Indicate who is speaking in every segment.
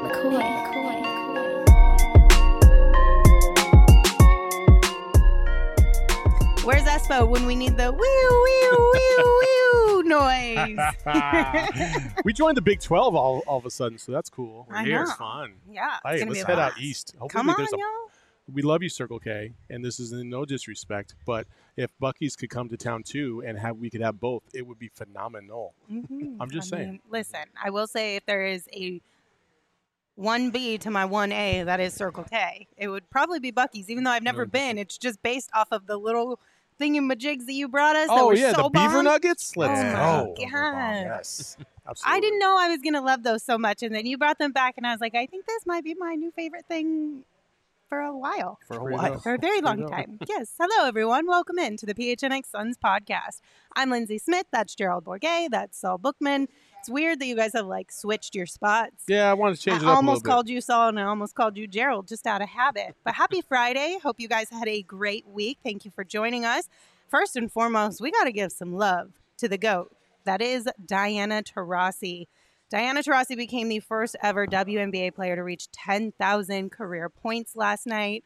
Speaker 1: Where's Espo when we need the wee noise?
Speaker 2: We joined the Big 12 all of a sudden, so that's cool.
Speaker 1: I
Speaker 2: Here.
Speaker 1: know.
Speaker 2: It's fun.
Speaker 1: Yeah,
Speaker 2: Hey,
Speaker 1: gonna
Speaker 2: let's
Speaker 1: be a
Speaker 2: head out
Speaker 1: blast.
Speaker 2: east. Hopefully
Speaker 1: Come on,
Speaker 2: there's
Speaker 1: y'all.
Speaker 2: We love you, Circle K, and this is in no disrespect, but if Buc-ee's could come to town too and we could have both, it would be phenomenal.
Speaker 1: Mm-hmm.
Speaker 2: I'm just saying.
Speaker 1: Listen, I will say if there is a 1B to my 1A, that is Circle K, it would probably be Buc-ee's, even though I've never been. It's just based off of the little thingamajigs that you brought us.
Speaker 2: Oh,
Speaker 1: that were
Speaker 2: yeah,
Speaker 1: so
Speaker 2: the beaver
Speaker 1: bomb.
Speaker 2: nuggets? Let's
Speaker 1: Oh,
Speaker 2: go.
Speaker 1: my God.
Speaker 2: Yes, absolutely.
Speaker 1: I didn't know I was going to love those so much, and then you brought them back, and I was like, I think this might be my new favorite thing for a while.
Speaker 2: For a
Speaker 1: very long time. Yes. Hello, everyone. Welcome in to the PHNX Suns podcast. I'm Lindsay Smith. That's Gerald Bourget. That's Saul Bookman. It's weird that you guys have switched your spots.
Speaker 2: Yeah, I wanted to change it up
Speaker 1: I
Speaker 2: a
Speaker 1: almost
Speaker 2: little
Speaker 1: called you Saul and I almost called you Gerald just out of habit. But happy Friday. Hope you guys had a great week. Thank you for joining us. First and foremost, we got to give some love to the GOAT. That is Diana Taurasi. Diana Taurasi became the first ever WNBA player to reach 10,000 career points last night.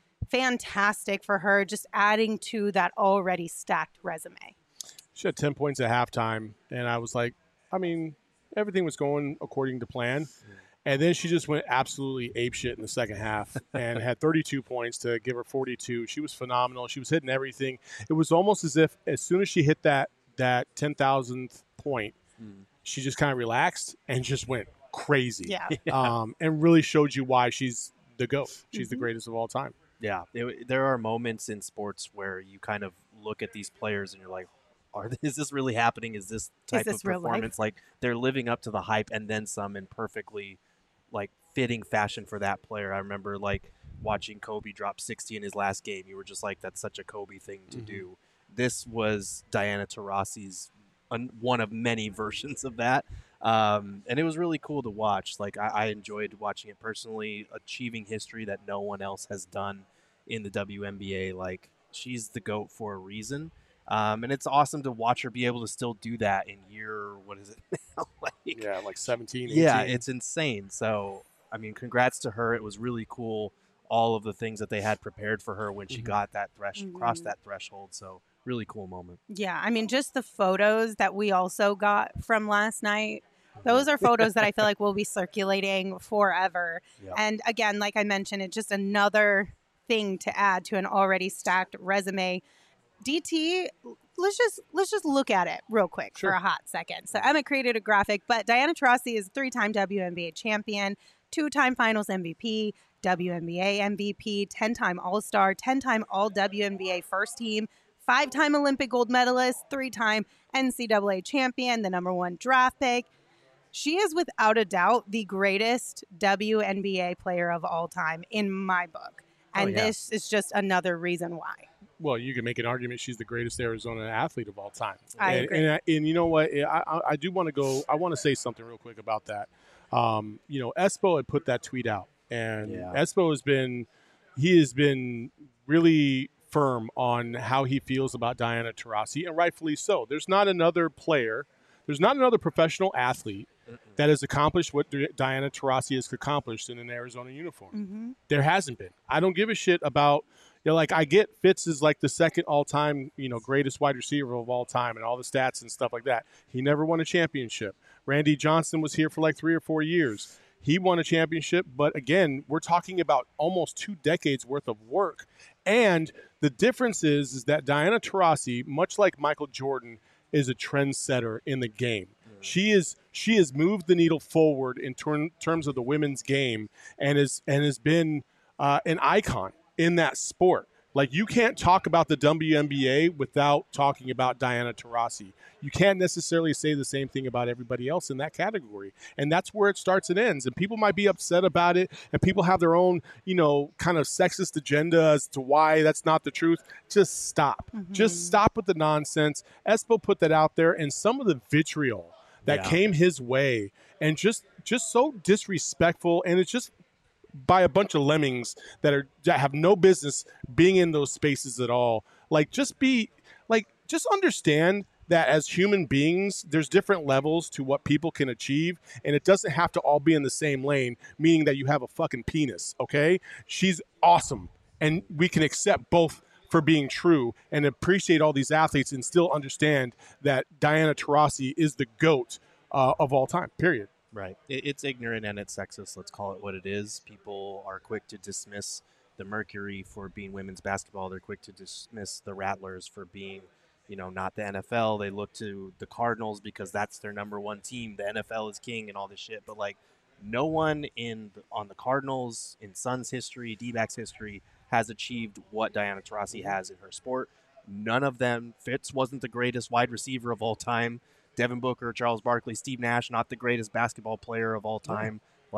Speaker 1: Fantastic for her, just adding to that already stacked resume.
Speaker 2: She had 10 points at halftime, and I was like, everything was going according to plan. And then she just went absolutely apeshit in the second half and had 32 points to give her 42. She was phenomenal. She was hitting everything. It was almost as if as soon as she hit that 10,000th point, she just kind of relaxed and just went crazy.
Speaker 1: Yeah.
Speaker 2: And really showed you why she's the GOAT. She's the greatest of all time.
Speaker 3: Yeah, there are moments in sports where you kind of look at these players and you're like, is this really happening? Is this type of performance? Like they're living up to the hype and then some in perfectly fitting fashion for that player. I remember watching Kobe drop 60 in his last game. You were just like, that's such a Kobe thing to do. This was Diana Taurasi's one of many versions of that. And it was really cool to watch. I enjoyed watching it personally, achieving history that no one else has done in the WNBA. She's the GOAT for a reason. And it's awesome to watch her be able to still do that in year, what is it now?
Speaker 2: 17, 18.
Speaker 3: Yeah, it's insane. So, congrats to her. It was really cool, all of the things that they had prepared for her when she got that crossed that threshold. So, really cool moment.
Speaker 1: Yeah, just the photos that we also got from last night. Those are photos that I feel like will be circulating forever.
Speaker 3: Yeah.
Speaker 1: And again, like I mentioned, it's just another thing to add to an already stacked resume. DT, let's just look at it real quick for a hot second. So Emma created a graphic, but Diana Taurasi is a 3-time WNBA champion, 2-time Finals MVP, WNBA MVP, 10-time All-Star, 10-time All-WNBA first team, 5-time Olympic gold medalist, 3-time NCAA champion, the #1 draft pick. She is without a doubt the greatest WNBA player of all time in my book. And this is just another reason why.
Speaker 2: Well, you can make an argument she's the greatest Arizona athlete of all time.
Speaker 1: I agree.
Speaker 2: And you know what? I do want to go. I want to say something real quick about that. Espo had put that tweet out, and Espo has been really firm on how he feels about Diana Taurasi, and rightfully so. There's not another professional athlete that has accomplished what Diana Taurasi has accomplished in an Arizona uniform. There hasn't been. I don't give a shit about. I get Fitz is the second all-time, greatest wide receiver of all time and all the stats and stuff like that. He never won a championship. Randy Johnson was here for 3 or 4 years. He won a championship, but again, we're talking about almost 2 decades worth of work. And the difference is that Diana Taurasi, much like Michael Jordan, is a trendsetter in the game. She has moved the needle forward in terms of the women's game and has been an icon in that sport. You can't talk about the WNBA without talking about Diana Taurasi. You can't necessarily say the same thing about everybody else in that category. And that's where it starts and ends. And people might be upset about it, and people have their own, kind of sexist agenda as to why that's not the truth. Just stop. Just stop with the nonsense. Espo put that out there, and some of the vitriol that came his way, and just so disrespectful, and it's just by a bunch of lemmings that have no business being in those spaces at all. Just understand that as human beings, there's different levels to what people can achieve, and it doesn't have to all be in the same lane, meaning that you have a fucking penis, okay? She's awesome, and we can accept both for being true and appreciate all these athletes and still understand that Diana Taurasi is the GOAT of all time, period.
Speaker 3: Right. It's ignorant and it's sexist. Let's call it what it is. People are quick to dismiss the Mercury for being women's basketball. They're quick to dismiss the Rattlers for being, not the NFL. They look to the Cardinals because that's their number one team. The NFL is king and all this shit. But, no one on the Cardinals, in Suns history, D-backs history, has achieved what Diana Taurasi has in her sport. None of them. Fitz wasn't the greatest wide receiver of all time. Devin Booker, Charles Barkley, Steve Nash, not the greatest basketball player of all time.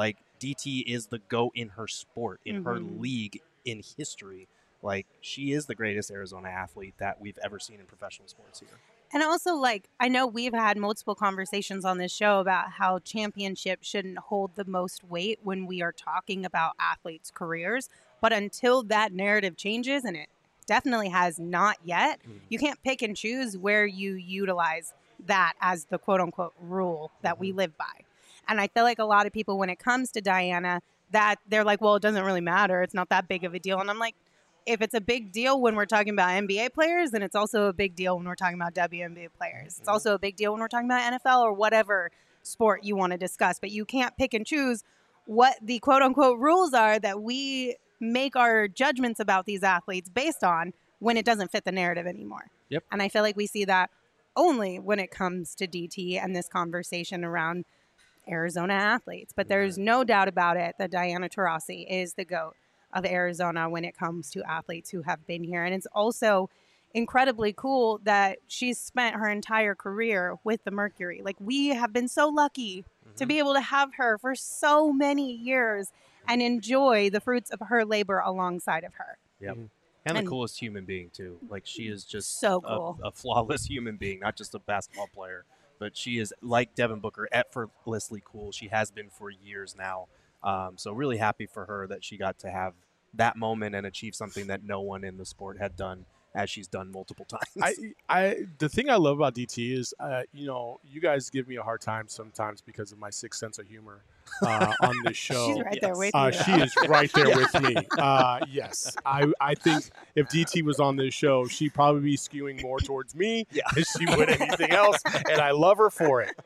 Speaker 3: DT is the GOAT in her sport, in her league, in history. She is the greatest Arizona athlete that we've ever seen in professional sports here.
Speaker 1: And also, I know we've had multiple conversations on this show about how championships shouldn't hold the most weight when we are talking about athletes' careers. But until that narrative changes, and it definitely has not yet, you can't pick and choose where you utilize that as the quote-unquote rule that we live by. And I feel like a lot of people, when it comes to Diana, that they're like, well, it doesn't really matter. It's not that big of a deal. And I'm like, if it's a big deal when we're talking about NBA players, then it's also a big deal when we're talking about WNBA players. It's also a big deal when we're talking about NFL or whatever sport you want to discuss. But you can't pick and choose what the quote-unquote rules are that we make our judgments about these athletes based on when it doesn't fit the narrative anymore.
Speaker 3: Yep.
Speaker 1: And I feel like we see that only when it comes to DT and this conversation around Arizona athletes. But there's no doubt about it that Diana Taurasi is the GOAT of Arizona when it comes to athletes who have been here. And it's also incredibly cool that she's spent her entire career with the Mercury. We have been so lucky to be able to have her for so many years and enjoy the fruits of her labor alongside of her.
Speaker 3: Yep. And the coolest human being, too. She is just
Speaker 1: so cool.
Speaker 3: a flawless human being, not just a basketball player. But she is, like Devin Booker, effortlessly cool. She has been for years now. So really happy for her that she got to have that moment and achieve something that no one in the sport had done, as she's done multiple times.
Speaker 2: The thing I love about DT is, you guys give me a hard time sometimes because of my sick sense of humor on this show.
Speaker 1: She's right there with you.
Speaker 2: She is right there with me. Yes. I think if DT was on this show, she'd probably be skewing more towards me than she would anything else, and I love her for it.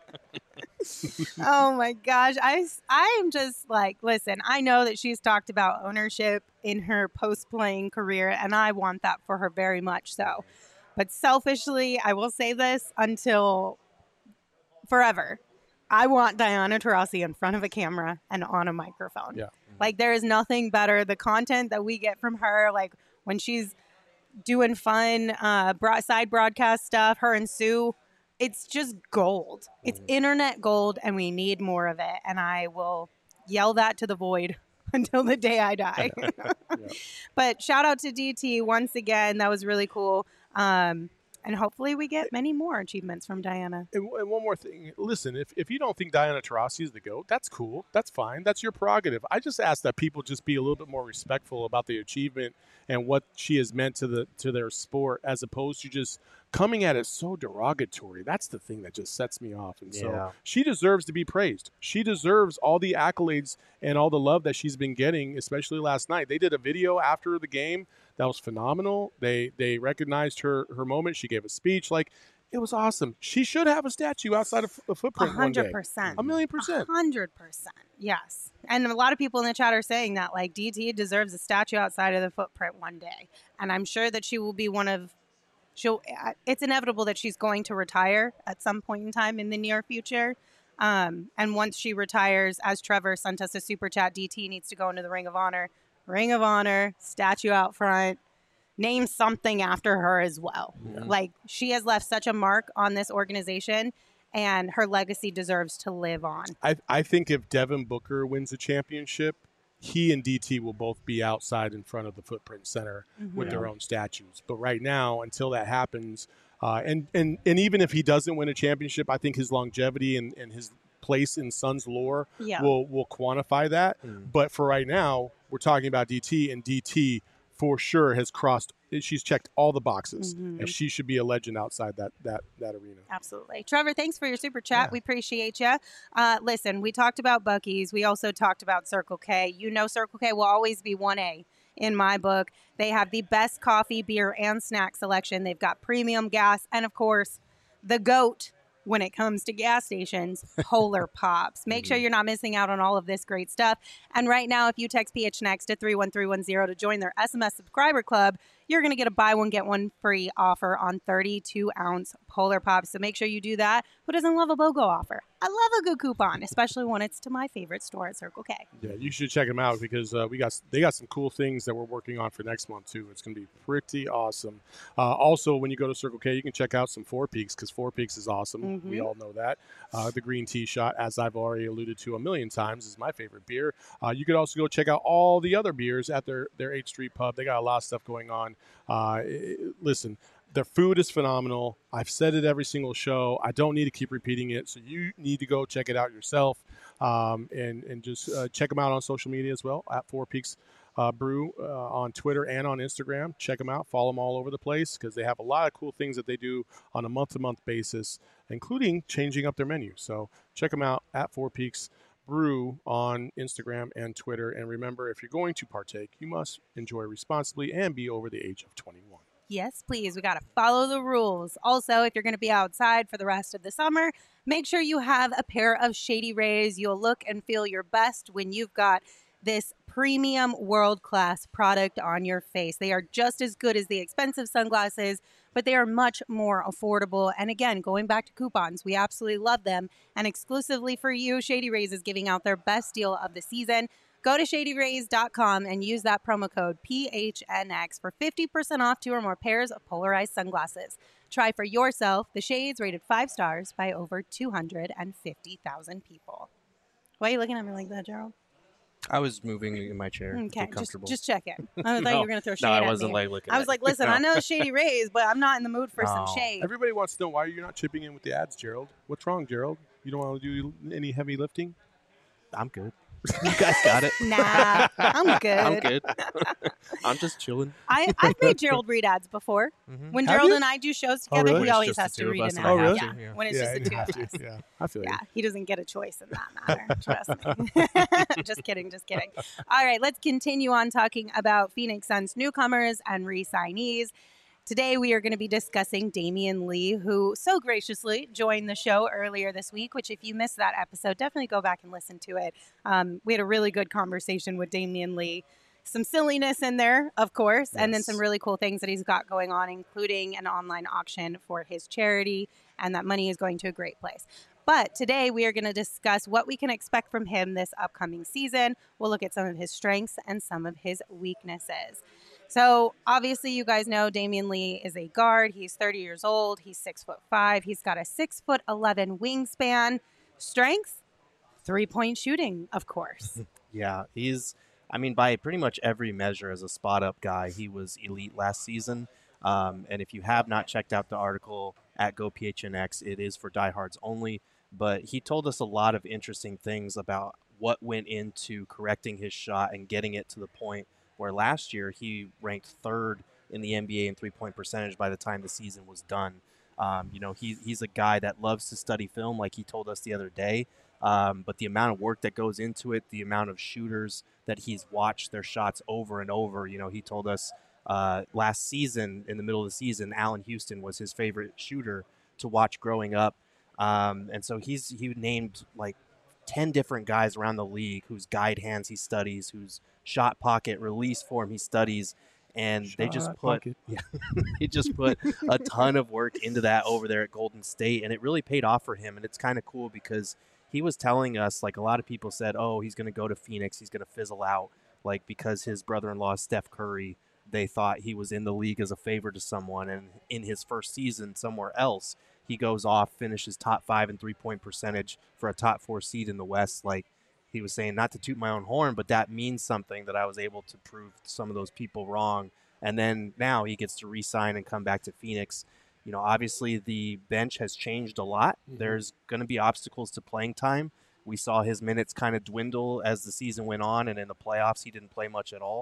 Speaker 1: Oh my gosh. I'm just listen, I know that she's talked about ownership in her post-playing career, and I want that for her very much so. But selfishly, I will say this until forever. I want Diana Taurasi in front of a camera and on a microphone. Yeah. There is nothing better. The content that we get from her, when she's doing fun side broadcast stuff, her and Sue, it's just gold. It's internet gold, and we need more of it. And I will yell that to the void until the day I die. But shout out to DT once again. That was really cool. And hopefully we get many more achievements from Diana.
Speaker 2: And one more thing. Listen, if you don't think Diana Taurasi is the GOAT, that's cool. That's fine. That's your prerogative. I just ask that people just be a little bit more respectful about the achievement and what she has meant to their sport, as opposed to just coming at it so derogatory. That's the thing that just sets me off. And so she deserves to be praised. She deserves all the accolades and all the love that she's been getting, especially last night. They did a video after the game that was phenomenal. They recognized her moment. She gave a speech. It was awesome. She should have a statue outside of a footprint 100%.
Speaker 1: One day. 1,000,000%. 100%. Yes. And a lot of people in the chat are saying that DT deserves a statue outside of the footprint one day. And I'm sure that she will be it's inevitable that she's going to retire at some point in time in the near future. And once she retires, as Trevor sent us a super chat, DT needs to go into the Ring of Honor. Ring of Honor, statue out front, name something after her as well. Yeah. She has left such a mark on this organization, and her legacy deserves to live on.
Speaker 2: I think if Devin Booker wins a championship, he and DT will both be outside in front of the Footprint Center with their own statues. But right now, until that happens, and even if he doesn't win a championship, I think his longevity and his place in Suns lore will quantify that. But for right now, we're talking about DT, and DT for sure has she's checked all the boxes,
Speaker 1: Mm-hmm.
Speaker 2: and she should be a legend outside that arena.
Speaker 1: Absolutely. Trevor, thanks for your super chat. Yeah. We appreciate you. Listen, we talked about Buc-ee's. We also talked about Circle K. You know Circle K will always be 1A in my book. They have the best coffee, beer, and snack selection. They've got premium gas, and of course, the GOAT when it comes to gas stations, Polar Pops. Make sure you're not missing out on all of this great stuff. And right now, if you text PHNX to 31310 to join their SMS subscriber club, you're going to get a buy one, get one free offer on 32-ounce Polar Pops. So make sure you do that. Who doesn't love a BOGO offer? I love a good coupon, especially when it's to my favorite store at Circle K.
Speaker 2: Yeah, you should check them out because they got some cool things that we're working on for next month, too. It's going to be pretty awesome. Also, when you go to Circle K, you can check out some Four Peaks because Four Peaks is awesome. Mm-hmm. We all know that. The green tea shot, as I've already alluded to a million times, is my favorite beer. You could also go check out all the other beers at their 8th Street Pub. They got a lot of stuff going on. Listen, their food is phenomenal. I've said it every single show. I don't need to keep repeating it, so you need to go check it out yourself and just check them out on social media as well, at Four Peaks Brew on Twitter and on Instagram. Check them out. Follow them all over the place because they have a lot of cool things that they do on a month-to-month basis, including changing up their menu. So check them out at Four Peaks Brew on Instagram and Twitter. And remember, if you're going to partake, you must enjoy responsibly and be over the age of 21.
Speaker 1: Yes, please. We got to follow the rules. Also, if you're going to be outside for the rest of the summer, make sure you have a pair of Shady Rays. You'll look and feel your best when you've got this premium world-class product on your face. They are just as good as the expensive sunglasses, but they are much more affordable. And again, going back to coupons, we absolutely love them. And exclusively for you, Shady Rays is giving out their best deal of the season. Go to ShadyRays.com and use that promo code PHNX for 50% off 2 or more pairs of polarized sunglasses. Try for yourself the shades rated 5 stars by over 250,000 people. Why are you looking at me like that, Gerald?
Speaker 3: I was moving in my chair.
Speaker 1: Okay,
Speaker 3: comfortable.
Speaker 1: just check it. I thought you were going to throw shade
Speaker 3: at me.
Speaker 1: No,
Speaker 3: I wasn't like looking.
Speaker 1: I was like, listen, I know Shady Rays, but I'm not in the mood for some shade.
Speaker 2: Everybody wants to know why you're not chipping in with the ads, Gerald. What's wrong, Gerald? You don't want to do any heavy lifting?
Speaker 3: I'm good. You guys got it.
Speaker 1: Nah, I'm good.
Speaker 3: I'm good. I'm just chilling.
Speaker 1: I've made Gerald read ads before. Mm-hmm. When Gerald and I do shows together,
Speaker 2: really?
Speaker 1: He always has to read an ad.
Speaker 2: Oh, really?
Speaker 1: Yeah. When it's just the two of us.
Speaker 2: Yeah, I feel you.
Speaker 1: Yeah, he doesn't get a choice in that matter. Trust me. Just kidding. All right, let's continue on talking about Phoenix Suns newcomers and re-signees. Today, we are going to be discussing Damion Lee, who so graciously joined the show earlier this week, which if you missed that episode, definitely go back and listen to it. We had a really good conversation with Damion Lee. Some silliness in there, of course, yes. And then some really cool things that he's got going on, including an online auction for his charity, and that money is going to a great place. But today, we are going to discuss what we can expect from him this upcoming season. We'll look at some of his strengths and some of his weaknesses. So obviously, you guys know Damion Lee is a guard. He's 30 years old. He's 6'5". He's got a 6'11" wingspan. Strength, 3-point shooting, of course.
Speaker 3: Yeah, by pretty much every measure as a spot-up guy, he was elite last season. And if you have not checked out the article at GoPHNX, it is for diehards only. But he told us a lot of interesting things about what went into correcting his shot and getting it to the point where last year he ranked 3rd in the NBA in three-point percentage by the time the season was done. He's a guy that loves to study film, like he told us the other day. But the amount of work that goes into it, the amount of shooters that he's watched their shots over and over. He told us last season, in the middle of the season, Allen Houston was his favorite shooter to watch growing up. And so he named like 10 different guys around the league whose guide hands he studies, whose shot pocket release form he studies, and they just put a ton of work into that over there at Golden State, and it really paid off for him. And it's kind of cool because he was telling us, like, a lot of people said, oh, he's going to go to Phoenix, he's going to fizzle out, like, because his brother-in-law Steph Curry, they thought he was in the league as a favor to someone, and in his first season somewhere else, he goes off, finishes top 5 in three-point percentage for a top 4 seed in the West. Like he was saying, not to toot my own horn, but that means something, that I was able to prove some of those people wrong. And then now he gets to re-sign and come back to Phoenix. Obviously the bench has changed a lot. Mm-hmm. There's going to be obstacles to playing time. We saw his minutes kind of dwindle as the season went on, and in the playoffs he didn't play much at all.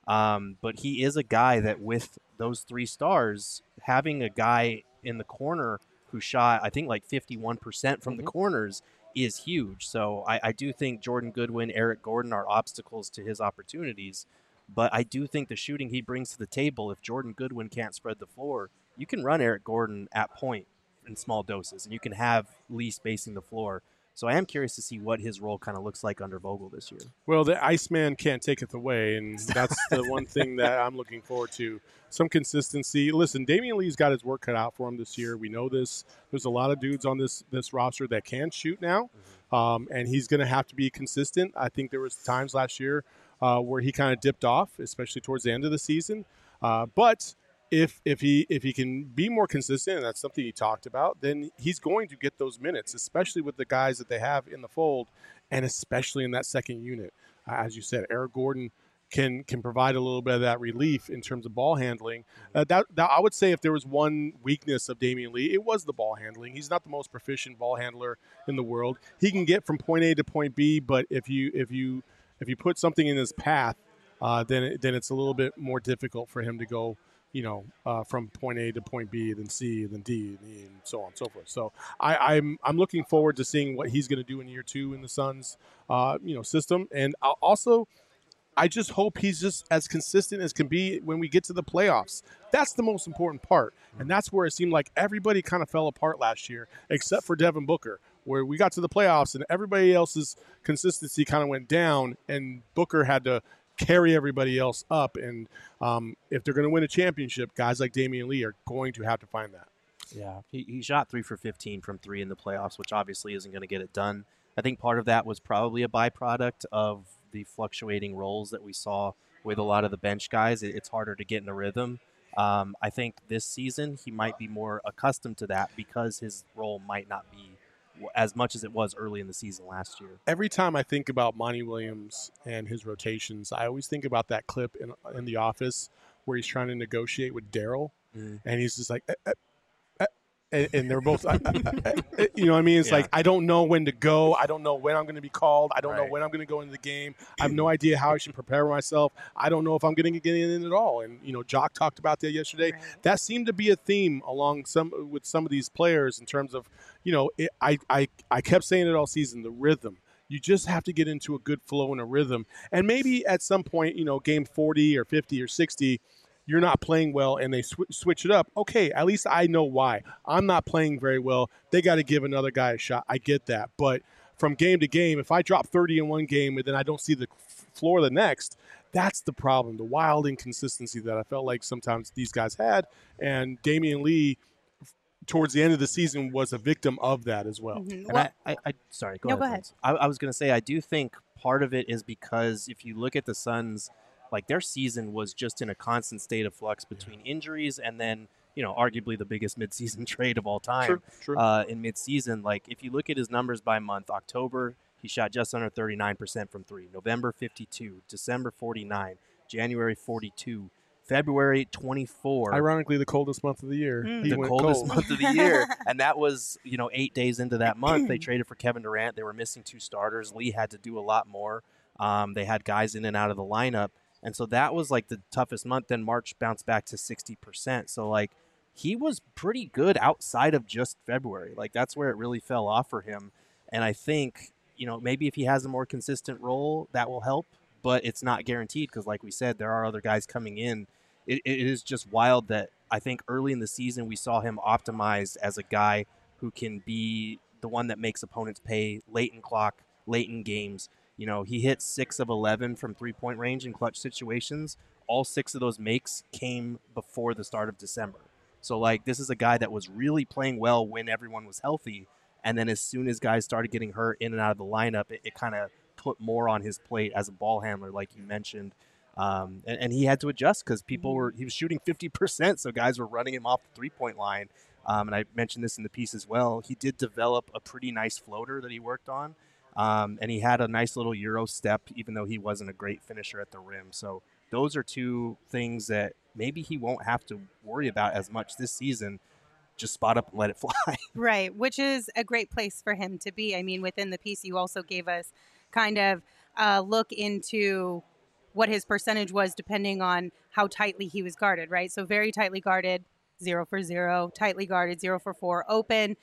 Speaker 3: But he is a guy that with those 3 stars, having a guy in the corner who shot, I think, like 51% from the corners is huge. So I do think Jordan Goodwin, Eric Gordon are obstacles to his opportunities. But I do think the shooting he brings to the table, if Jordan Goodwin can't spread the floor, you can run Eric Gordon at point in small doses, and you can have Lee spacing the floor. So I am curious to see what his role kind of looks like under Vogel this year.
Speaker 2: Well, the Iceman can't take it away, and that's the one thing that I'm looking forward to. Some consistency. Listen, Damian Lee's got his work cut out for him this year. We know this. There's a lot of dudes on this roster that can shoot now, and he's going to have to be consistent. I think there was times last year where he kind of dipped off, especially towards the end of the season. But if he can be more consistent, and that's something he talked about, then he's going to get those minutes, especially with the guys that they have in the fold, and especially in that second unit. As you said, Eric Gordon can provide a little bit of that relief in terms of ball handling. That I would say if there was one weakness of Damian Lee, it was the ball handling. He's not the most proficient ball handler in the world. He can get from point A to point B, but if you put something in his path, then it's a little bit more difficult for him to go, from point A to point B, then C, then D, and E, and so on and so forth. So I'm looking forward to seeing what he's going to do in year 2 in the Suns, system. And I just hope he's just as consistent as can be when we get to the playoffs. That's the most important part. And that's where it seemed like everybody kind of fell apart last year, except for Devin Booker, where we got to the playoffs and everybody else's consistency kind of went down, and Booker had to carry everybody else up. And if they're going to win a championship, guys like Damian Lee are going to have to find that.
Speaker 3: Yeah, he shot 3 for 15 from 3 in the playoffs, which obviously isn't going to get it done. I think part of that was probably a byproduct of the fluctuating roles that we saw with a lot of the bench guys. It's harder to get in a rhythm. I think this season he might be more accustomed to that because his role might not be as much as it was early in the season last year.
Speaker 2: Every time I think about Monty Williams and his rotations, I always think about that clip in The Office where he's trying to negotiate with Daryl, and he's just like, and they're both, you know what I mean? It's like, I don't know when to go. I don't know when I'm going to be called. I don't know when I'm going to go into the game. I have no idea how I should prepare myself. I don't know if I'm going to get in at all. And, Jock talked about that yesterday. Right. That seemed to be a theme with some of these players in terms of, I kept saying it all season, the rhythm. You just have to get into a good flow and a rhythm. And maybe at some point, game 40 or 50 or 60, you're not playing well and they switch it up. Okay, at least I know why. I'm not playing very well. They got to give another guy a shot. I get that. But from game to game, if I drop 30 in one game and then I don't see the floor the next, that's the problem, the wild inconsistency that I felt like sometimes these guys had. And Damian Lee, towards the end of the season, was a victim of that as well.
Speaker 3: Mm-hmm. And sorry, go ahead. I was going to say, I do think part of it is because if you look at the Suns, like their season was just in a constant state of flux between injuries and then, arguably the biggest midseason trade of all time.
Speaker 2: True.
Speaker 3: In midseason. Like if you look at his numbers by month, October, he shot just under 39% from 3. November, 52. December, 49. January, 42. February, 24.
Speaker 2: Ironically, the coldest month of the year.
Speaker 3: The coldest month of the year. And that was, 8 days into that month. They traded for Kevin Durant. They were missing 2 starters. Lee had to do a lot more. They had guys in and out of the lineup. And so that was like the toughest month. Then March bounced back to 60%. So like he was pretty good outside of just February. Like that's where it really fell off for him. And I think, maybe if he has a more consistent role, that will help. But it's not guaranteed because like we said, there are other guys coming in. It is just wild that I think early in the season we saw him optimized as a guy who can be the one that makes opponents pay late in clock, late in games. He hit 6 of 11 from 3-point range in clutch situations. All 6 of those makes came before the start of December. So, like, this is a guy that was really playing well when everyone was healthy. And then as soon as guys started getting hurt in and out of the lineup, it kind of put more on his plate as a ball handler, like you mentioned. And he had to adjust because he was shooting 50%, so guys were running him off the 3-point line. And I mentioned this in the piece as well. He did develop a pretty nice floater that he worked on. And he had a nice little Euro step, even though he wasn't a great finisher at the rim. So those are 2 things that maybe he won't have to worry about as much this season. Just spot up and let it fly.
Speaker 1: Right, which is a great place for him to be. I mean, within the piece, you also gave us kind of a look into what his percentage was depending on how tightly he was guarded, right? So very tightly guarded, 0 for 0, tightly guarded, 0 for 4, open,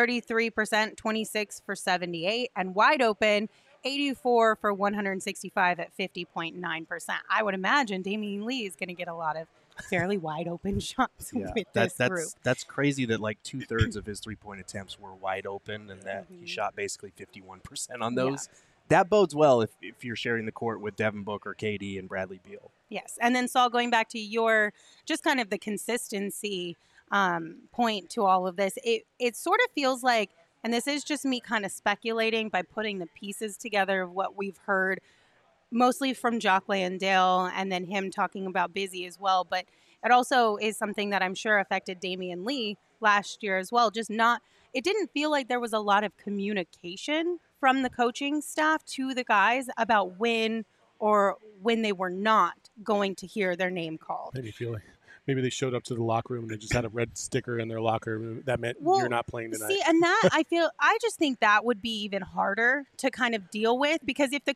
Speaker 1: 33%, 26 for 78, and wide open, 84 for 165 at 50.9%. I would imagine Damion Lee is going to get a lot of fairly wide open shots with this group.
Speaker 3: That's crazy that like 2/3 of his 3-point attempts were wide open and that he shot basically 51% on those. Yeah. That bodes well if you're sharing the court with Devin Booker, KD, and Bradley Beal.
Speaker 1: Yes. And then, Saul, going back to your just kind of the consistency point to all of this, it sort of feels like, and this is just me kind of speculating by putting the pieces together of what we've heard mostly from Jock Landale and then him talking about Busy as well. But it also is something that I'm sure affected Damion Lee last year as well. It didn't feel like there was a lot of communication from the coaching staff to the guys about when they were not going to hear their name called.
Speaker 2: Maybe feeling. Maybe they showed up to the locker room and they just had a red sticker in their locker. That meant you're not playing tonight.
Speaker 1: See, and that I just think that would be even harder to kind of deal with, because if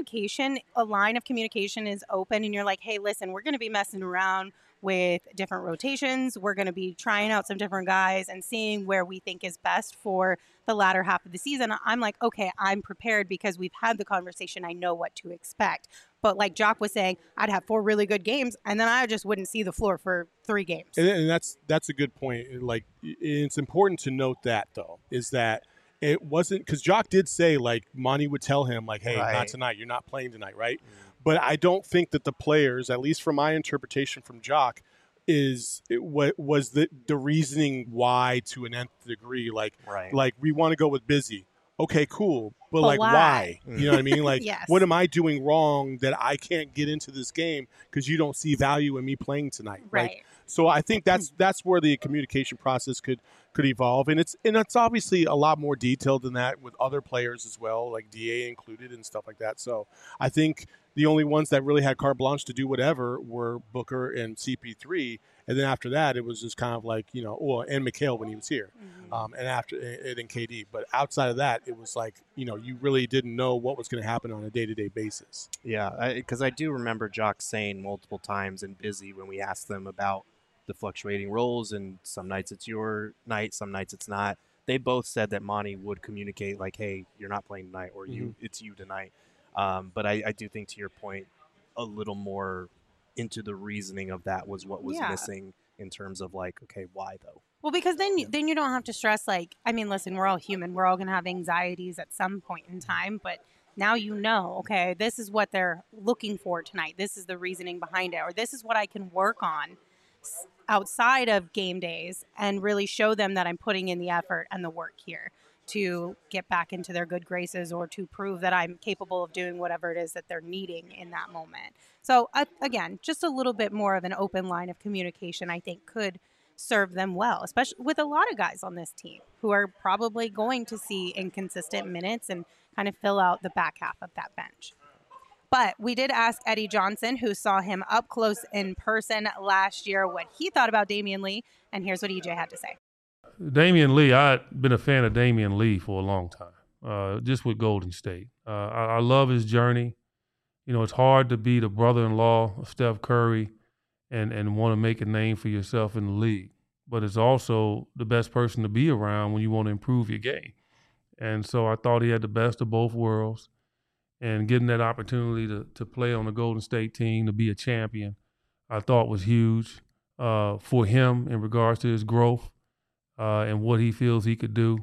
Speaker 1: a line of communication is open and you're like, hey, listen, we're going to be messing around with different rotations. We're going to be trying out some different guys and seeing where we think is best for the latter half of the season. I'm like, okay, I'm prepared because we've had the conversation. I know what to expect. But like Jock was saying, I'd have 4 really good games, and then I just wouldn't see the floor for 3 games.
Speaker 2: And that's a good point. Like, it's important to note that, though, is that it wasn't – because Jock did say, like, Monty would tell him, like, hey, not tonight. You're not playing tonight, right? Mm-hmm. But I don't think that the players, at least from my interpretation from Jock, was the reasoning why to an nth degree. Like we want to go with Busy. Okay, cool. But like, why? You know what I mean? Like,
Speaker 1: yes.
Speaker 2: What am I doing wrong that I can't get into this game because you don't see value in me playing tonight?
Speaker 1: Right.
Speaker 2: Like, so I think that's where the communication process could evolve, and it's obviously a lot more detailed than that with other players as well, like DA included and stuff like that. So I think the only ones that really had carte blanche to do whatever were Booker and CP3, and then after that it was just kind of like, and Mikal when he was here, and then KD. But outside of that, it was like, you really didn't know what was going to happen on a day-to-day basis.
Speaker 3: Yeah, because I do remember Jock saying multiple times and Busy when we asked them about the fluctuating roles, and some nights it's your night, some nights it's not. They both said that Monty would communicate like, hey, you're not playing tonight, or it's you tonight. But I do think, to your point, a little more into the reasoning of that was what was missing in terms of like, okay, why though?
Speaker 1: Well, because then you don't have to stress, like, I mean, listen, we're all human. We're all going to have anxieties at some point in time, but now okay, this is what they're looking for tonight. This is the reasoning behind it, or this is what I can work on outside of game days and really show them that I'm putting in the effort and the work here to get back into their good graces, or to prove that I'm capable of doing whatever it is that they're needing in that moment. So again, just a little bit more of an open line of communication, I think, could serve them well, especially with a lot of guys on this team who are probably going to see inconsistent minutes and kind of fill out the back half of that bench. But we did ask Eddie Johnson, who saw him up close in person last year, what he thought about Damion Lee, and here's what EJ had to say.
Speaker 4: Damion Lee, I've been a fan of Damion Lee for a long time, just with Golden State. I love his journey. It's hard to be the brother-in-law of Steph Curry and want to make a name for yourself in the league. But it's also the best person to be around when you want to improve your game. And so I thought he had the best of both worlds. And getting that opportunity to play on the Golden State team, to be a champion, I thought was huge for him in regards to his growth and what he feels he could do.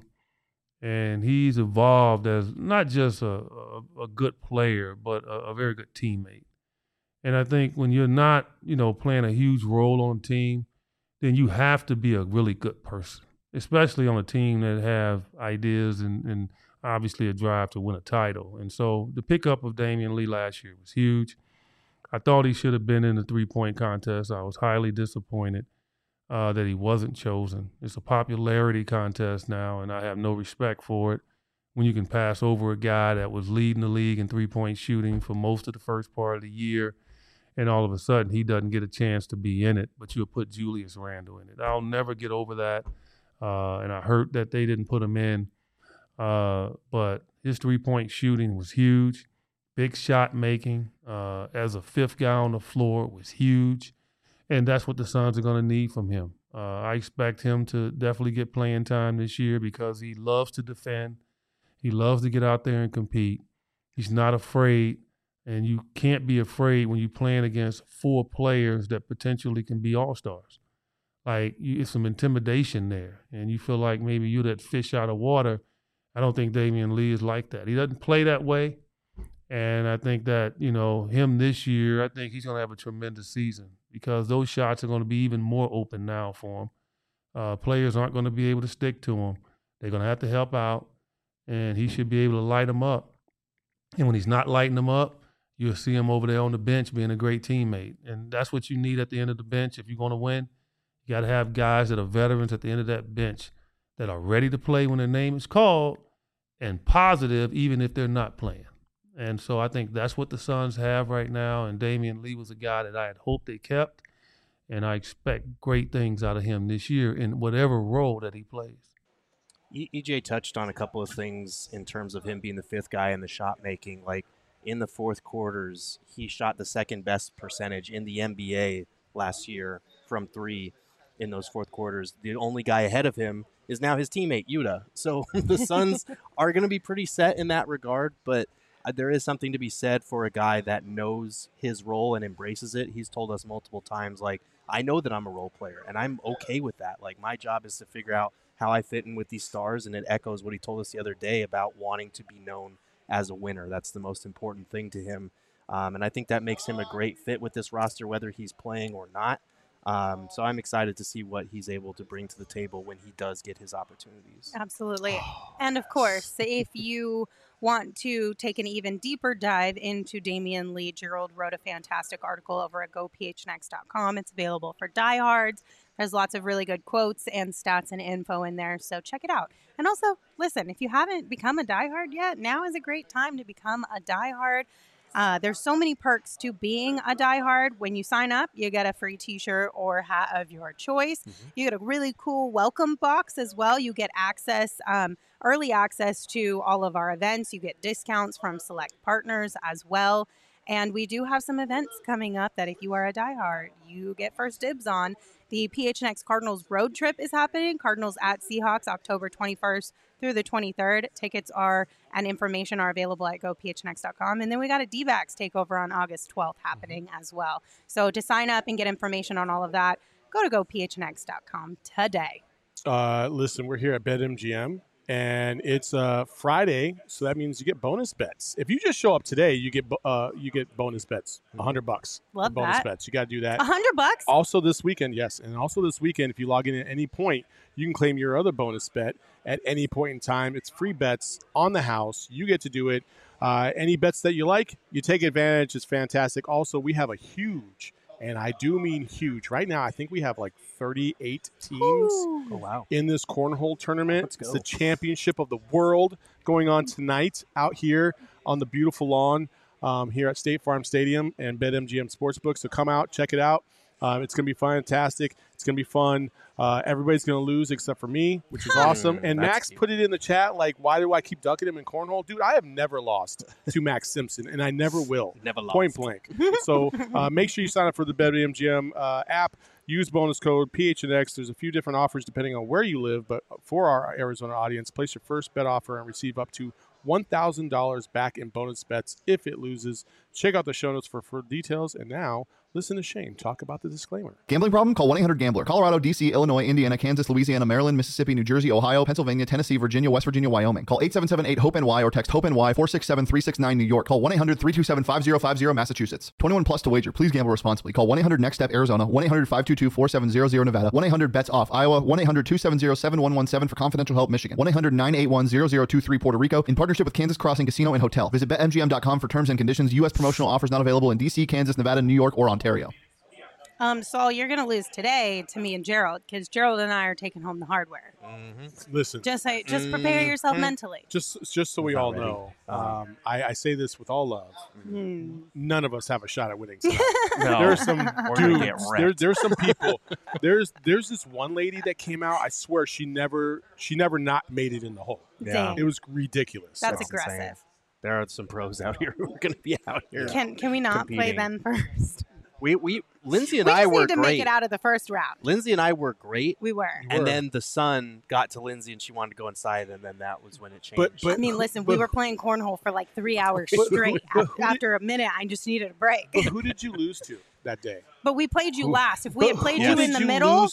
Speaker 4: And he's evolved as not just a good player, but a very good teammate. And I think when you're not, playing a huge role on a team, then you have to be a really good person, especially on a team that have ideas and obviously a drive to win a title. And so the pickup of Damion Lee last year was huge. I thought he should have been in the three-point contest. I was highly disappointed that he wasn't chosen. It's a popularity contest now, and I have no respect for it. When you can pass over a guy that was leading the league in three-point shooting for most of the first part of the year, and all of a sudden he doesn't get a chance to be in it, but you'll put Julius Randle in it. I'll never get over that, and I hurt that they didn't put him in. But his three-point shooting was huge. big shot making as a fifth guy on the floor was huge. And that's what the Suns are going to need from him. I expect him to definitely get playing time this year because he loves to defend. He loves to get out there and compete. He's not afraid, and you can't be afraid when you're playing against 4 players that potentially can be all-stars. Like, it's some intimidation there, and you feel like maybe you're that fish out of water. I don't think Damian Lee is like that. He doesn't play that way, and I think that, him this year, I think he's going to have a tremendous season because those shots are going to be even more open now for him. Players aren't going to be able to stick to him. They're going to have to help out, and he should be able to light them up. And when he's not lighting them up, you'll see him over there on the bench being a great teammate. And that's what you need at the end of the bench. If you're going to win, you got to have guys that are veterans at the end of that bench that are ready to play when their name is called and positive even if they're not playing. And so I think that's what the Suns have right now. And Damian Lee was a guy that I had hoped they kept. And I expect great things out of him this year in whatever role that he plays.
Speaker 3: EJ touched on a couple of things in terms of him being the fifth guy in the shot making. Like in the fourth quarters, he shot the second best percentage in the NBA last year from 3 in those fourth quarters. The only guy ahead of him is now his teammate, Yuta. So the Suns are going to be pretty set in that regard, but there is something to be said for a guy that knows his role and embraces it. He's told us multiple times, like, I know that I'm a role player, and I'm okay with that. Like, my job is to figure out how I fit in with these stars, and it echoes what he told us the other day about wanting to be known as a winner. That's the most important thing to him, and I think that makes him a great fit with this roster, whether he's playing or not. So I'm excited to see what he's able to bring to the table when he does get his opportunities.
Speaker 1: Absolutely. And of course, if you want to take an even deeper dive into Damian Lee, Gerald wrote a fantastic article over at gophnx.com. It's available for diehards. There's lots of really good quotes and stats and info in there, so check it out. And also, listen, if you haven't become a diehard yet, now is a great time to become a diehard. There's so many perks to being a diehard. When you sign up, you get a free t-shirt or hat of your choice. Mm-hmm. You get a really cool welcome box as well. You get access, early access to all of our events. You get discounts from select partners as well. And we do have some events coming up that if you are a diehard, you get first dibs on. The PHNX Cardinals road trip is happening. Cardinals at Seahawks, October 21st through the 23rd. Tickets and information are available at gophnx.com. And then we got a D-backs takeover on August 12th happening as well. So to sign up and get information on all of that, go to gophnx.com today.
Speaker 2: Listen, we're here at BetMGM. And it's Friday, so that means you get bonus bets. If you just show up today, you get bonus bets, $100.
Speaker 1: Love
Speaker 2: bonus
Speaker 1: that.
Speaker 2: bets. You got to do that.
Speaker 1: $100.
Speaker 2: Also this weekend, yes, and also this weekend, if you log in at any point, you can claim your other bonus bet at any point in time. It's free bets on the house. You get to do it. Any bets that you like, you take advantage. It's fantastic. Also, we have a huge. And I do mean huge. Right now, I think we have like 38 teams in this cornhole tournament. It's the championship of the world going on tonight out here on the beautiful lawn here at State Farm Stadium and BetMGM Sportsbook. So come out, check it out. It's going to be fantastic. It's going to be fun. Everybody's going to lose except for me, which is awesome. And Max put it in the chat, like, why do I keep ducking him in cornhole? Dude, I have never lost to Max Simpson, and I never will.
Speaker 3: Never lost.
Speaker 2: Point blank. So make sure you sign up for the BetMGM app. Use bonus code PHNX. There's a few different offers depending on where you live, but for our Arizona audience, place your first bet offer and receive up to $1,000 back in bonus bets if it loses. Check out the show notes for details. And now, listen to Shane talk about the disclaimer.
Speaker 5: Gambling problem? Call 1-800-GAMBLER. Colorado, D.C., Illinois, Indiana, Kansas, Louisiana, Maryland, Mississippi, New Jersey, Ohio, Pennsylvania, Tennessee, Virginia, West Virginia, Wyoming. Call 877-8-HOPE-NY or text HOPE-NY 467-369 New York. Call 1-800-327-5050 Massachusetts. 21 plus to wager. Please gamble responsibly. Call 1-800-NEXT-STEP Arizona. 1-800-522-4700 Nevada. 1-800-BETS-OFF Iowa. 1-800-270-7117 for confidential help Michigan. 1-800-981-0023 Puerto Rico. In partnership with Kansas Crossing Casino and Hotel. Visit BetMGM.com for terms and conditions. U.S. promotional offers not available in D.C., Kansas, Nevada, New York, or Ontario.
Speaker 1: Saul, you're going to lose today to me and Gerald because Gerald and I are taking home the hardware.
Speaker 2: Mm-hmm. Listen.
Speaker 1: Just prepare yourself mentally.
Speaker 2: Just so we all know, I say this with all love. None of us have a shot at winning tonight.
Speaker 3: No.
Speaker 2: There's some dudes. There's some people. There's this one lady that came out. I swear she never not made it in the hole.
Speaker 1: Yeah.
Speaker 2: It was ridiculous.
Speaker 1: That's aggressive.
Speaker 3: Insane. There are some pros out here who are going to be out here.
Speaker 1: Can we not play them first?
Speaker 3: Lindsay and I were great.
Speaker 1: We just need to make it out of the first round.
Speaker 3: Lindsay and I were great.
Speaker 1: We were.
Speaker 3: And then the sun got to Lindsay and she wanted to go inside, and then that was when it changed.
Speaker 1: But I mean, listen, we were playing cornhole for like 3 hours straight. After a minute, I just needed a break.
Speaker 2: But who did you lose to that day?
Speaker 1: But we played you last. If we had played you in the middle,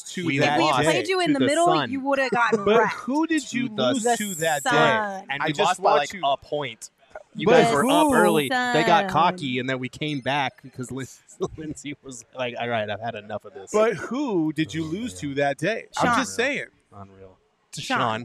Speaker 1: you would have gotten
Speaker 2: But
Speaker 1: wrecked.
Speaker 2: who did you lose to that day?
Speaker 3: And we lost by like a point. You guys were up early. They got cocky, and then we came back because Lindsay was like, all right, I've had enough of this.
Speaker 2: But who did you lose to that day?
Speaker 1: Sean.
Speaker 2: I'm just saying.
Speaker 3: Unreal. To Sean.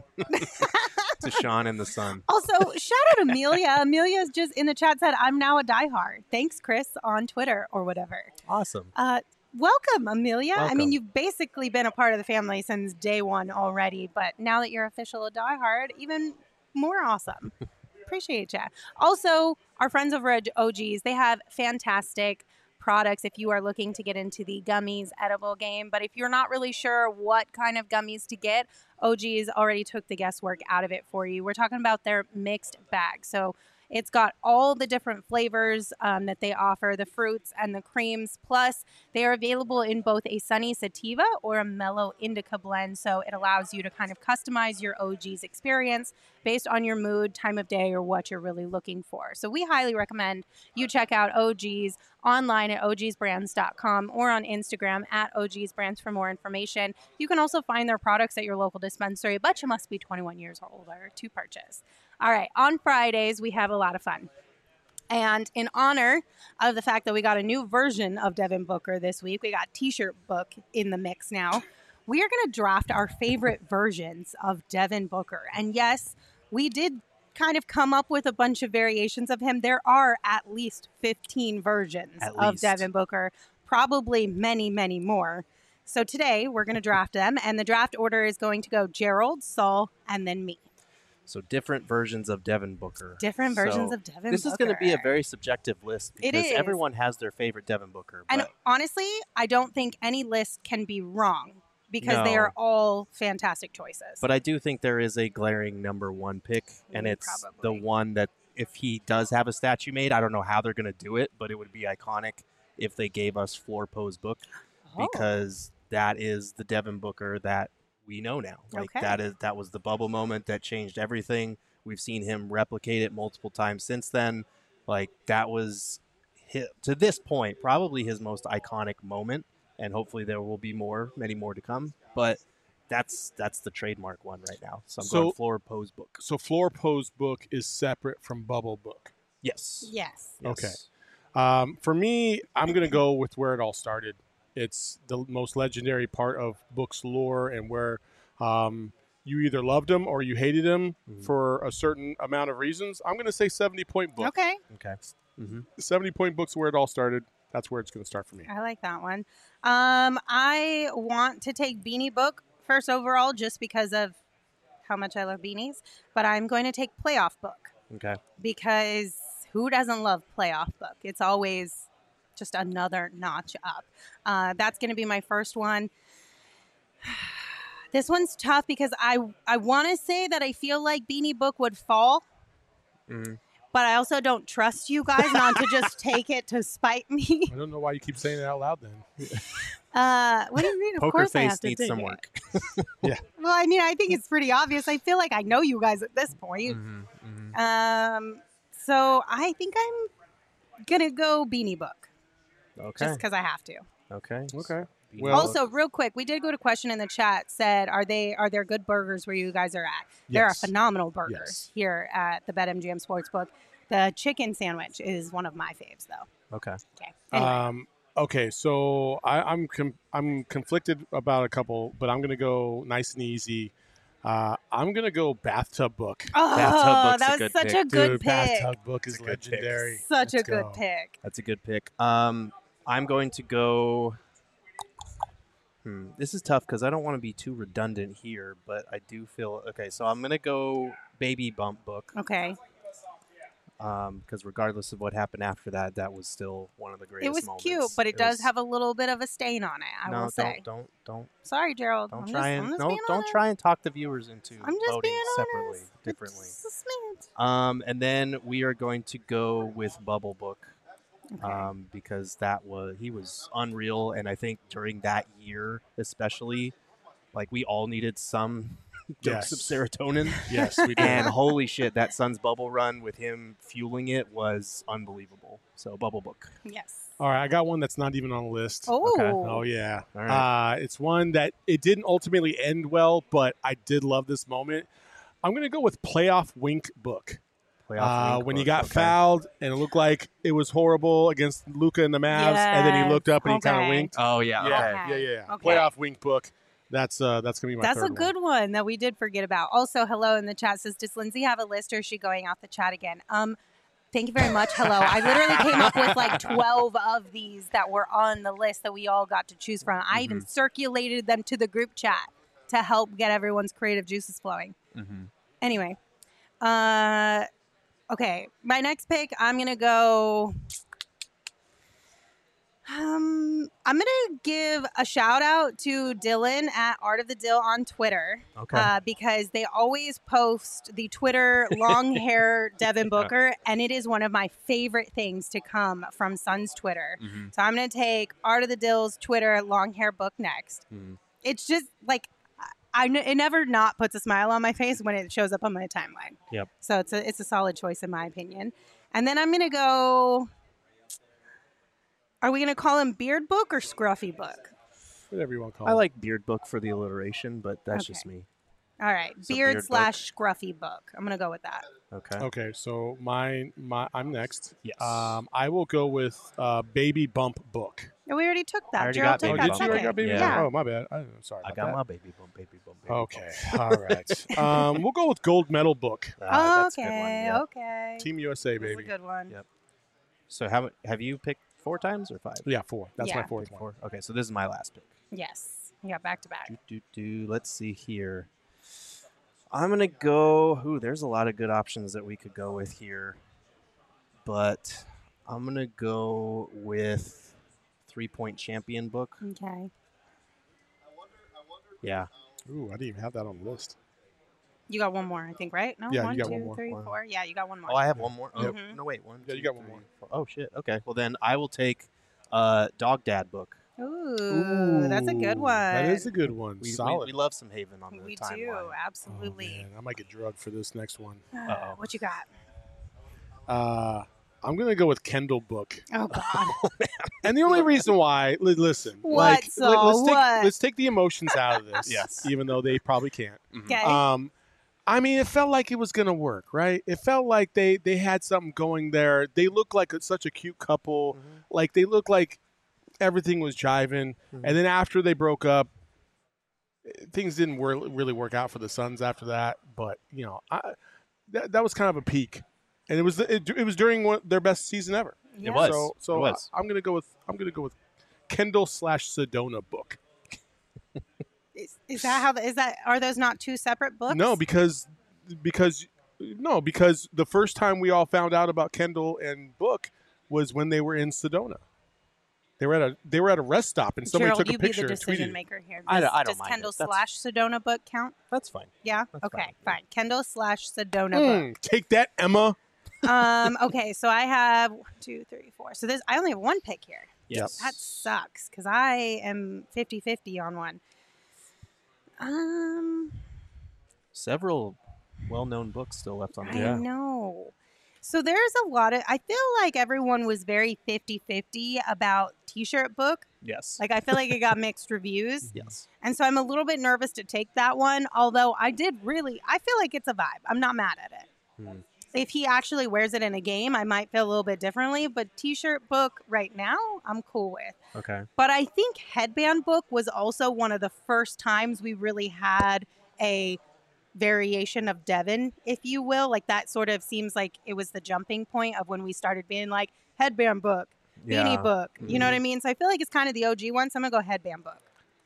Speaker 3: To Sean and the sun.
Speaker 1: Also, shout out Amelia. Amelia's just in the chat said, I'm now a diehard. Thanks, Chris, on Twitter or whatever.
Speaker 3: Awesome.
Speaker 1: Welcome, Amelia.
Speaker 3: Welcome.
Speaker 1: I mean, you've basically been a part of the family since day one already, but now that you're official a diehard, even more awesome. Appreciate you. Also, our friends over at OG's, they have fantastic products if you are looking to get into the gummies edible game. But if you're not really sure what kind of gummies to get, OG's already took the guesswork out of it for you. We're talking about their mixed bag. So it's got all the different flavors that they offer, the fruits and the creams. Plus, they are available in both a sunny sativa or a mellow indica blend. So it allows you to kind of customize your OG's experience based on your mood, time of day, or what you're really looking for. So we highly recommend you check out OG's online at ogsbrands.com or on Instagram at ogsbrands for more information. You can also find their products at your local dispensary, but you must be 21 years or older to purchase. All right, on Fridays, we have a lot of fun. And in honor of the fact that we got a new version of Devin Booker this week, we got T-shirt book in the mix now. We are going to draft our favorite versions of Devin Booker. And yes, we did kind of come up with a bunch of variations of him. There are at least 15 versions of Devin Booker, probably many, many more. So today, we're going to draft them. And the draft order is going to go Gerald, Saul, and then me.
Speaker 3: So different versions of Devin Booker.
Speaker 1: Different versions of Devin Booker.
Speaker 3: This is going to be a very subjective list because everyone has their favorite Devin Booker.
Speaker 1: And honestly, I don't think any list can be wrong because they are all fantastic choices.
Speaker 3: But I do think there is a glaring number one pick, and it's the one that if he does have a statue made, I don't know how they're going to do it, but it would be iconic if they gave us Floor Pose Book because that is the Devin Booker that we know now. Like that was the bubble moment that changed everything. We've seen him replicate it multiple times since then. Like that was to this point probably his most iconic moment, and hopefully there will be many more to come. But that's the trademark one right now. So I'm going Floor Pose Book.
Speaker 2: So Floor Pose Book is separate from Bubble Book.
Speaker 3: Yes.
Speaker 2: Okay. For me, I'm going to go with where it all started. It's the most legendary part of Book's lore and where you either loved him or you hated him for a certain amount of reasons. I'm going to say 70-point Book.
Speaker 1: Okay.
Speaker 2: 70-point Book's where it all started. That's where it's going to start for me.
Speaker 1: I like that one. I want to take Beanie Book first overall just because of how much I love beanies. But I'm going to take Playoff Book.
Speaker 3: Okay.
Speaker 1: Because who doesn't love Playoff Book? It's always just another notch up. That's going to be my first one. This one's tough because I want to say that I feel like Beanie Book would fall. But I also don't trust you guys not to just take it to spite me.
Speaker 2: I don't know why you keep saying it out loud then.
Speaker 1: What do you mean? Of
Speaker 3: Poker
Speaker 1: course
Speaker 3: face
Speaker 1: I have to
Speaker 3: needs
Speaker 1: take
Speaker 3: some
Speaker 1: it.
Speaker 3: work.
Speaker 2: Yeah.
Speaker 1: Well, I mean, I think it's pretty obvious. I feel like I know you guys at this point. So I think I'm going to go Beanie Book.
Speaker 3: Okay.
Speaker 1: Just because I have to.
Speaker 3: Okay.
Speaker 2: Well,
Speaker 1: Also, real quick, we did go to question in the chat. Said, are there good burgers where you guys are at? There are phenomenal burgers here at the BetMGM Sportsbook. The chicken sandwich is one of my faves, though.
Speaker 3: Okay.
Speaker 1: Anyway.
Speaker 2: Okay, so I'm conflicted about a couple, but I'm going to go nice and easy. I'm going to go Bathtub Book.
Speaker 1: Oh, that was such a good pick.
Speaker 2: Bathtub Book is legendary.
Speaker 1: Such a good pick.
Speaker 3: That's a good pick. I'm going to go... This is tough because I don't want to be too redundant here, but I do feel... Okay, so I'm going to go Baby Bump Book.
Speaker 1: Okay.
Speaker 3: because regardless of what happened after that, that was still one of the greatest moments.
Speaker 1: It was cute, but it does have a little bit of a stain on it, I will say.
Speaker 3: Don't.
Speaker 1: Sorry, Gerald.
Speaker 3: Don't try and talk the viewers into voting separately, differently. And then we are going to go with Bubble Book. Okay. Because he was unreal, and I think during that year especially, like we all needed some dose of serotonin.
Speaker 2: Yes, we did.
Speaker 3: And holy shit, that Suns bubble run with him fueling it was unbelievable. So Bubble Book.
Speaker 1: Yes.
Speaker 2: All right, I got one that's not even on the list.
Speaker 1: Oh.
Speaker 2: Okay. Oh yeah.
Speaker 3: All right.
Speaker 2: It's one that it didn't ultimately end well, but I did love this moment. I'm gonna go with Playoff Wink Book. When he got fouled and it looked like it was horrible against Luka and the Mavs, and then he looked up and he kind of winked.
Speaker 3: Oh yeah,
Speaker 2: yeah. Okay. Playoff Wink Book. That's gonna be my.
Speaker 1: That's
Speaker 2: third
Speaker 1: a good one that we did forget about. Also, hello in the chat says, does Lindsay have a list or is she going off the chat again? Thank you very much. Hello. I literally came up with like 12 of these that were on the list that we all got to choose from. I even circulated them to the group chat to help get everyone's creative juices flowing. Anyway, okay, my next pick, I'm going to go... I'm going to give a shout out to Dylan at Art of the Dill on Twitter.
Speaker 3: Okay.
Speaker 1: Because they always post the Twitter long hair Devin Booker, and it is one of my favorite things to come from Suns Twitter. So I'm going to take Art of the Dill's Twitter long hair book next. It's just like, it never not puts a smile on my face when it shows up on my timeline.
Speaker 3: Yep.
Speaker 1: So it's a solid choice in my opinion. And then I'm going to go... Are we going to call him Beard Book or Scruffy Book?
Speaker 2: Whatever you want to call him.
Speaker 3: I like Beard Book for the alliteration, but that's just me.
Speaker 1: All right.
Speaker 3: So
Speaker 1: Beard / Scruffy Book. I'm going to go with that.
Speaker 3: Okay.
Speaker 2: Okay, so I'm next.
Speaker 3: Yes.
Speaker 2: I will go with Baby Bump Book.
Speaker 1: No, we already took that.
Speaker 3: I already
Speaker 1: Gerald
Speaker 3: got
Speaker 1: took
Speaker 3: Baby
Speaker 1: that
Speaker 3: Bump.
Speaker 2: Did you already
Speaker 1: second.
Speaker 2: got Baby
Speaker 1: Yeah.
Speaker 2: Bump? Oh, my bad. I'm sorry
Speaker 3: I
Speaker 2: about
Speaker 3: got
Speaker 2: that.
Speaker 3: my Baby Bump, Baby Bump, Baby
Speaker 2: Okay.
Speaker 3: Bump.
Speaker 2: All right. We'll go with Gold Medal Book.
Speaker 3: That's a good one.
Speaker 1: Okay.
Speaker 3: Yep.
Speaker 1: Okay.
Speaker 2: Team USA,
Speaker 1: That's a
Speaker 2: baby.
Speaker 1: good one.
Speaker 3: Yep. So have you picked 4 times or 5?
Speaker 2: Yeah, 4. That's
Speaker 1: Yeah.
Speaker 2: my fourth one.
Speaker 3: 4. Okay, so this is my last pick.
Speaker 1: Yes. You got back to back.
Speaker 3: Let's see here. I'm going to go... Ooh, there's a lot of good options that we could go with here. But I'm going to go with 3-Point Champion Book.
Speaker 1: Okay.
Speaker 3: Yeah.
Speaker 2: Ooh, I didn't even have that on the list.
Speaker 1: You got one more, I think, right? No,
Speaker 2: Yeah,
Speaker 1: one,
Speaker 2: you got
Speaker 1: two,
Speaker 2: one more.
Speaker 1: 3, 4. Yeah, you got one more.
Speaker 3: Oh, I have one more? Oh,
Speaker 1: Yep.
Speaker 3: no, wait. 1,
Speaker 2: Yeah,
Speaker 3: 2,
Speaker 2: you got one
Speaker 3: 3,
Speaker 2: more.
Speaker 3: 4. Oh, shit. Okay. Well, then I will take Dog Dad Book.
Speaker 1: Ooh, that's a good one.
Speaker 2: That is a good one. Solid.
Speaker 3: We love some Haven on the
Speaker 1: We
Speaker 3: timeline.
Speaker 1: do,
Speaker 2: Oh,
Speaker 1: absolutely.
Speaker 2: man, I might get drugged for this next one.
Speaker 3: Uh-oh.
Speaker 1: What you got?
Speaker 2: I'm going to go with Kendall Book.
Speaker 1: Oh, God.
Speaker 2: And the only reason why, listen,
Speaker 1: What, Saul?
Speaker 2: let's take the emotions out of this.
Speaker 3: Yes.
Speaker 2: Even though they probably can't.
Speaker 1: Okay.
Speaker 2: I mean, it felt like it was going to work, right? It felt like they had something going there. They looked like such a cute couple. Like, they looked like everything was jiving. And then after they broke up, things didn't really work out for the Suns after that. But, you know, that was kind of a peak. And it was during their best season ever.
Speaker 1: Yeah.
Speaker 3: It was.
Speaker 2: So
Speaker 3: It was.
Speaker 2: I'm gonna go with Kendall / Sedona Book.
Speaker 1: Is that how? Are those not 2 separate books?
Speaker 2: No, because the first time we all found out about Kendall and Book was when they were in Sedona. They were at a rest stop and somebody
Speaker 1: Gerald,
Speaker 2: took a
Speaker 1: you be
Speaker 2: picture
Speaker 1: the
Speaker 2: and tweeted
Speaker 1: decision
Speaker 2: it.
Speaker 1: maker here.
Speaker 3: I don't
Speaker 1: Does
Speaker 3: mind
Speaker 1: Kendall
Speaker 3: it. That's-
Speaker 1: / Sedona Book count?
Speaker 3: That's fine.
Speaker 1: Yeah.
Speaker 3: That's
Speaker 1: Okay.
Speaker 3: fine.
Speaker 1: Fine. Kendall / Sedona Book.
Speaker 2: Take that, Emma.
Speaker 1: Okay, so I have 1, 2, 3, 4. So I only have 1 pick here.
Speaker 3: Yes.
Speaker 1: That sucks because I am 50-50 on one.
Speaker 3: Several well-known books still left on the
Speaker 1: I know. So there's a lot of, I feel like everyone was very 50-50 about T-shirt Book.
Speaker 3: Yes.
Speaker 1: Like I feel like it got mixed reviews.
Speaker 3: Yes.
Speaker 1: And so I'm a little bit nervous to take that one. Although I feel like it's a vibe. I'm not mad at it. If he actually wears it in a game, I might feel a little bit differently. But T-shirt Book right now, I'm cool with.
Speaker 3: Okay.
Speaker 1: But I think Headband Book was also one of the first times we really had a variation of Devin, if you will. Like that sort of seems like it was the jumping point of when we started being like Headband Book, Beanie Book. You know what I mean? So I feel like it's kind of the OG one. So I'm going to go Headband Book.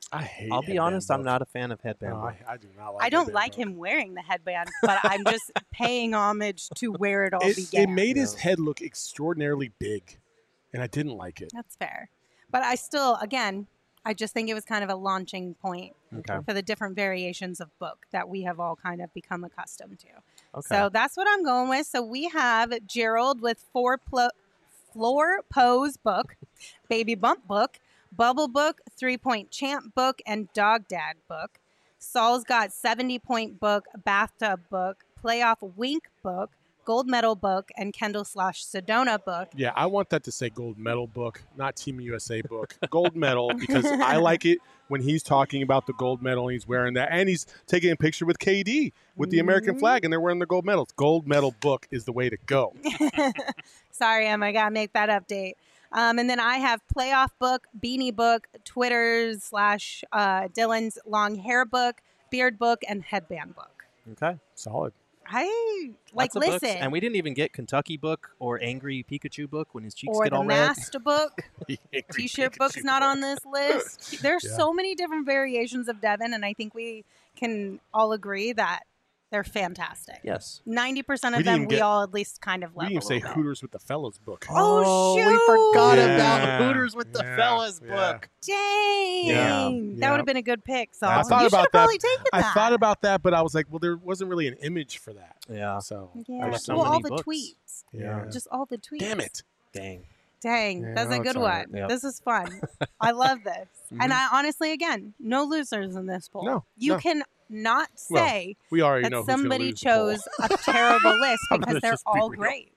Speaker 3: I'll be honest, I'm not a fan of headband.
Speaker 2: No, I do not like.
Speaker 1: I don't like him wearing the headband, but I'm just paying homage to where it all began.
Speaker 2: It made his head look extraordinarily big, and I didn't like it.
Speaker 1: That's fair, but I still, again, I just think it was kind of a launching point for the different variations of book that we have all kind of become accustomed to. Okay. So that's what I'm going with. So we have Gerald with floor pose book, baby bump book, bubble book, 3-point champ book, and dog dad book. Saul's got 70-point book, bathtub book, playoff wink book, gold medal book, and Kendall/Sedona book.
Speaker 2: Yeah, I want that to say gold medal book, not Team USA book. Gold medal, because I like it when he's talking about the gold medal and he's wearing that. And he's taking a picture with KD with the American flag and they're wearing the gold medals. Gold medal book is the way to go.
Speaker 1: Sorry, Em, I got to make that update. And then I have playoff book, beanie book, Twitter/Dylan's long hair book, beard book, and headband book.
Speaker 3: Okay.
Speaker 2: Solid.
Speaker 1: I like listen.
Speaker 3: Books. And we didn't even get Kentucky book or Angry Pikachu book when his cheeks
Speaker 1: or
Speaker 3: get all red.
Speaker 1: Or the Master book. T-shirt book's not on this list. There's so many different variations of Devin, and I think we can all agree that they're fantastic.
Speaker 3: Yes.
Speaker 1: 90% of them we all at least kind of love.
Speaker 2: We didn't say Hooters with the Fellas book.
Speaker 1: Oh, shoot.
Speaker 3: We forgot about Hooters with the Fellas book.
Speaker 1: Dang. That would have been a good pick. So
Speaker 2: I thought about
Speaker 1: that.
Speaker 2: I thought about that, but I was like, well, there wasn't really an image for that.
Speaker 3: Yeah.
Speaker 2: So
Speaker 1: all the tweets.
Speaker 2: Yeah.
Speaker 1: Just all the tweets.
Speaker 2: Damn it.
Speaker 3: Dang.
Speaker 1: Yeah, that's a good one. Yep. This is fun. I love this. And I honestly, again, no losers in this poll.
Speaker 2: No.
Speaker 1: You can not say
Speaker 2: we already
Speaker 1: that
Speaker 2: know
Speaker 1: somebody chose a terrible list because they're all great.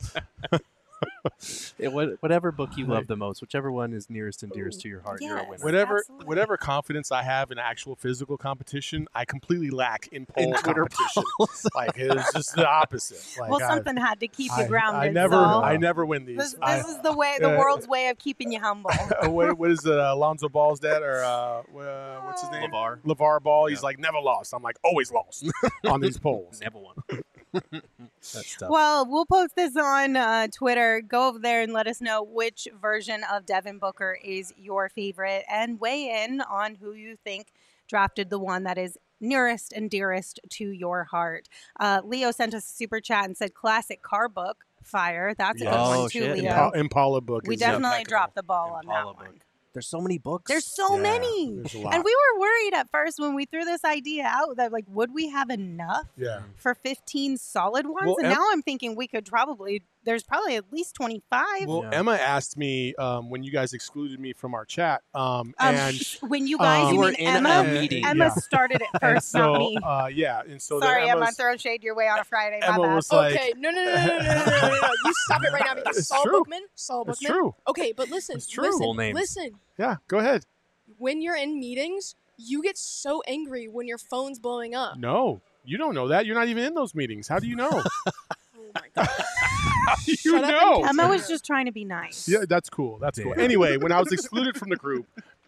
Speaker 3: Whatever book you love the most, whichever one is nearest and dearest to your heart, you're a winner.
Speaker 2: Whatever confidence I have in actual physical competition, I completely lack in poll competition. Like it's just the opposite. Like,
Speaker 1: something had to keep you grounded.
Speaker 2: I never win these.
Speaker 1: This is the world's way of keeping you humble.
Speaker 2: What is it? Alonzo Ball's dad or what's his name? LeVar Ball. He's like never lost. I'm like always lost on these polls.
Speaker 3: Never won. That's tough.
Speaker 1: Well, we'll post this on Twitter. Go over there and let us know which version of Devin Booker is your favorite and weigh in on who you think drafted the one that is nearest and dearest to your heart. Leo sent us a super chat and said classic car book. Fire. That's a good one too, Leo.
Speaker 2: Impala book.
Speaker 1: We definitely dropped the ball on that one.
Speaker 3: There's so many books.
Speaker 1: There's so many.
Speaker 2: There's a lot.
Speaker 1: And we were worried at first when we threw this idea out that, like, would we have enough for 15 solid ones? Well, and now I'm thinking there's probably at least 25.
Speaker 2: Well, Emma asked me when you guys excluded me from our chat. And
Speaker 1: when you guys, you mean
Speaker 3: in
Speaker 1: Emma?
Speaker 3: a meeting.
Speaker 1: Emma started it first, not me.
Speaker 2: And so
Speaker 1: sorry, Emma, throwing shade your way on a Friday.
Speaker 2: Emma was
Speaker 6: okay, no. You stop it right now because Saul Bookman.
Speaker 2: It's true.
Speaker 6: Okay, but listen.
Speaker 2: It's true.
Speaker 6: Listen.
Speaker 2: Yeah, go ahead.
Speaker 6: When you're in meetings, you get so angry when your phone's blowing up.
Speaker 2: No, you don't know that. You're not even in those meetings. How do you know?
Speaker 6: Oh my God.
Speaker 2: You know.
Speaker 1: Emma was just trying to be nice.
Speaker 2: Yeah, that's cool. That's cool. Anyway, when I was excluded from the group,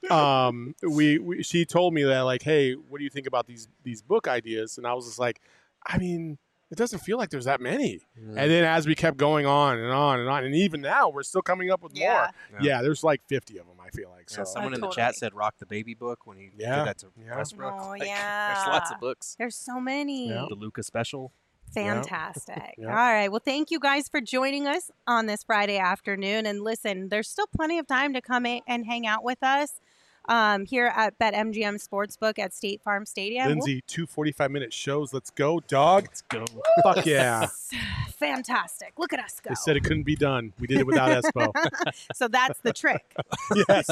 Speaker 2: she told me that, like, hey, what do you think about these book ideas? And I was just like, I mean, it doesn't feel like there's that many. And then as we kept going on and on and on, and even now we're still coming up with more. Yeah, there's like 50 of them, I feel like. So
Speaker 3: someone in the chat said Rock the Baby book when he did that to Westbrook.
Speaker 1: Oh,
Speaker 3: there's lots of books.
Speaker 1: There's so many.
Speaker 3: The Luka special.
Speaker 1: Fantastic. All right. Well, thank you guys for joining us on this Friday afternoon. And listen, there's still plenty of time to come in and hang out with us here at BetMGM Sportsbook at State Farm Stadium.
Speaker 2: Lindsay, 2 45-minute shows. Let's go, dog.
Speaker 3: Let's go.
Speaker 2: Fuck yeah.
Speaker 1: Fantastic. Look at us go.
Speaker 2: They said it couldn't be done. We did it without Espo.
Speaker 1: So that's the trick.
Speaker 2: Yes.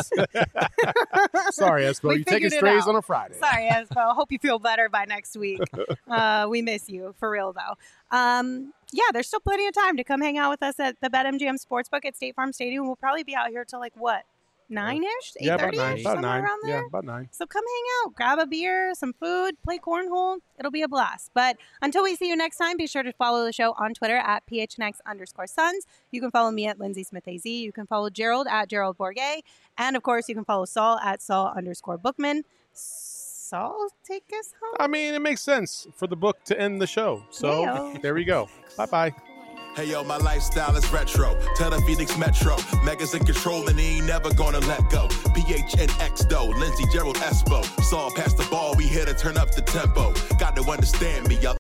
Speaker 2: Sorry, Espo. You taking strays on a Friday.
Speaker 1: Sorry, Espo. Hope you feel better by next week. We miss you. For real, though. There's still plenty of time to come hang out with us at the BetMGM Sportsbook at State Farm Stadium. We'll probably be out here till like what? 9-ish? 8:30? Somewhere around there?
Speaker 2: Yeah, about 9.
Speaker 1: So come hang out, grab a beer, some food, play cornhole. It'll be a blast. But until we see you next time, be sure to follow the show on Twitter at PHNX_Suns. You can follow me at Lindsay Smith AZ. You can follow Gerald at Gerald Bourget. And of course, you can follow Saul at Saul_Bookman. Saul, take us home.
Speaker 2: I mean, it makes sense for the book to end the show. So there we go. Bye-bye.
Speaker 7: Hey yo, my lifestyle is retro. Tell the Phoenix Metro. Megas in control and he ain't never gonna let go. PHNX though, Lindsey Gerald Espo. Saw past the ball, we here to turn up the tempo. Got to understand me, y'all.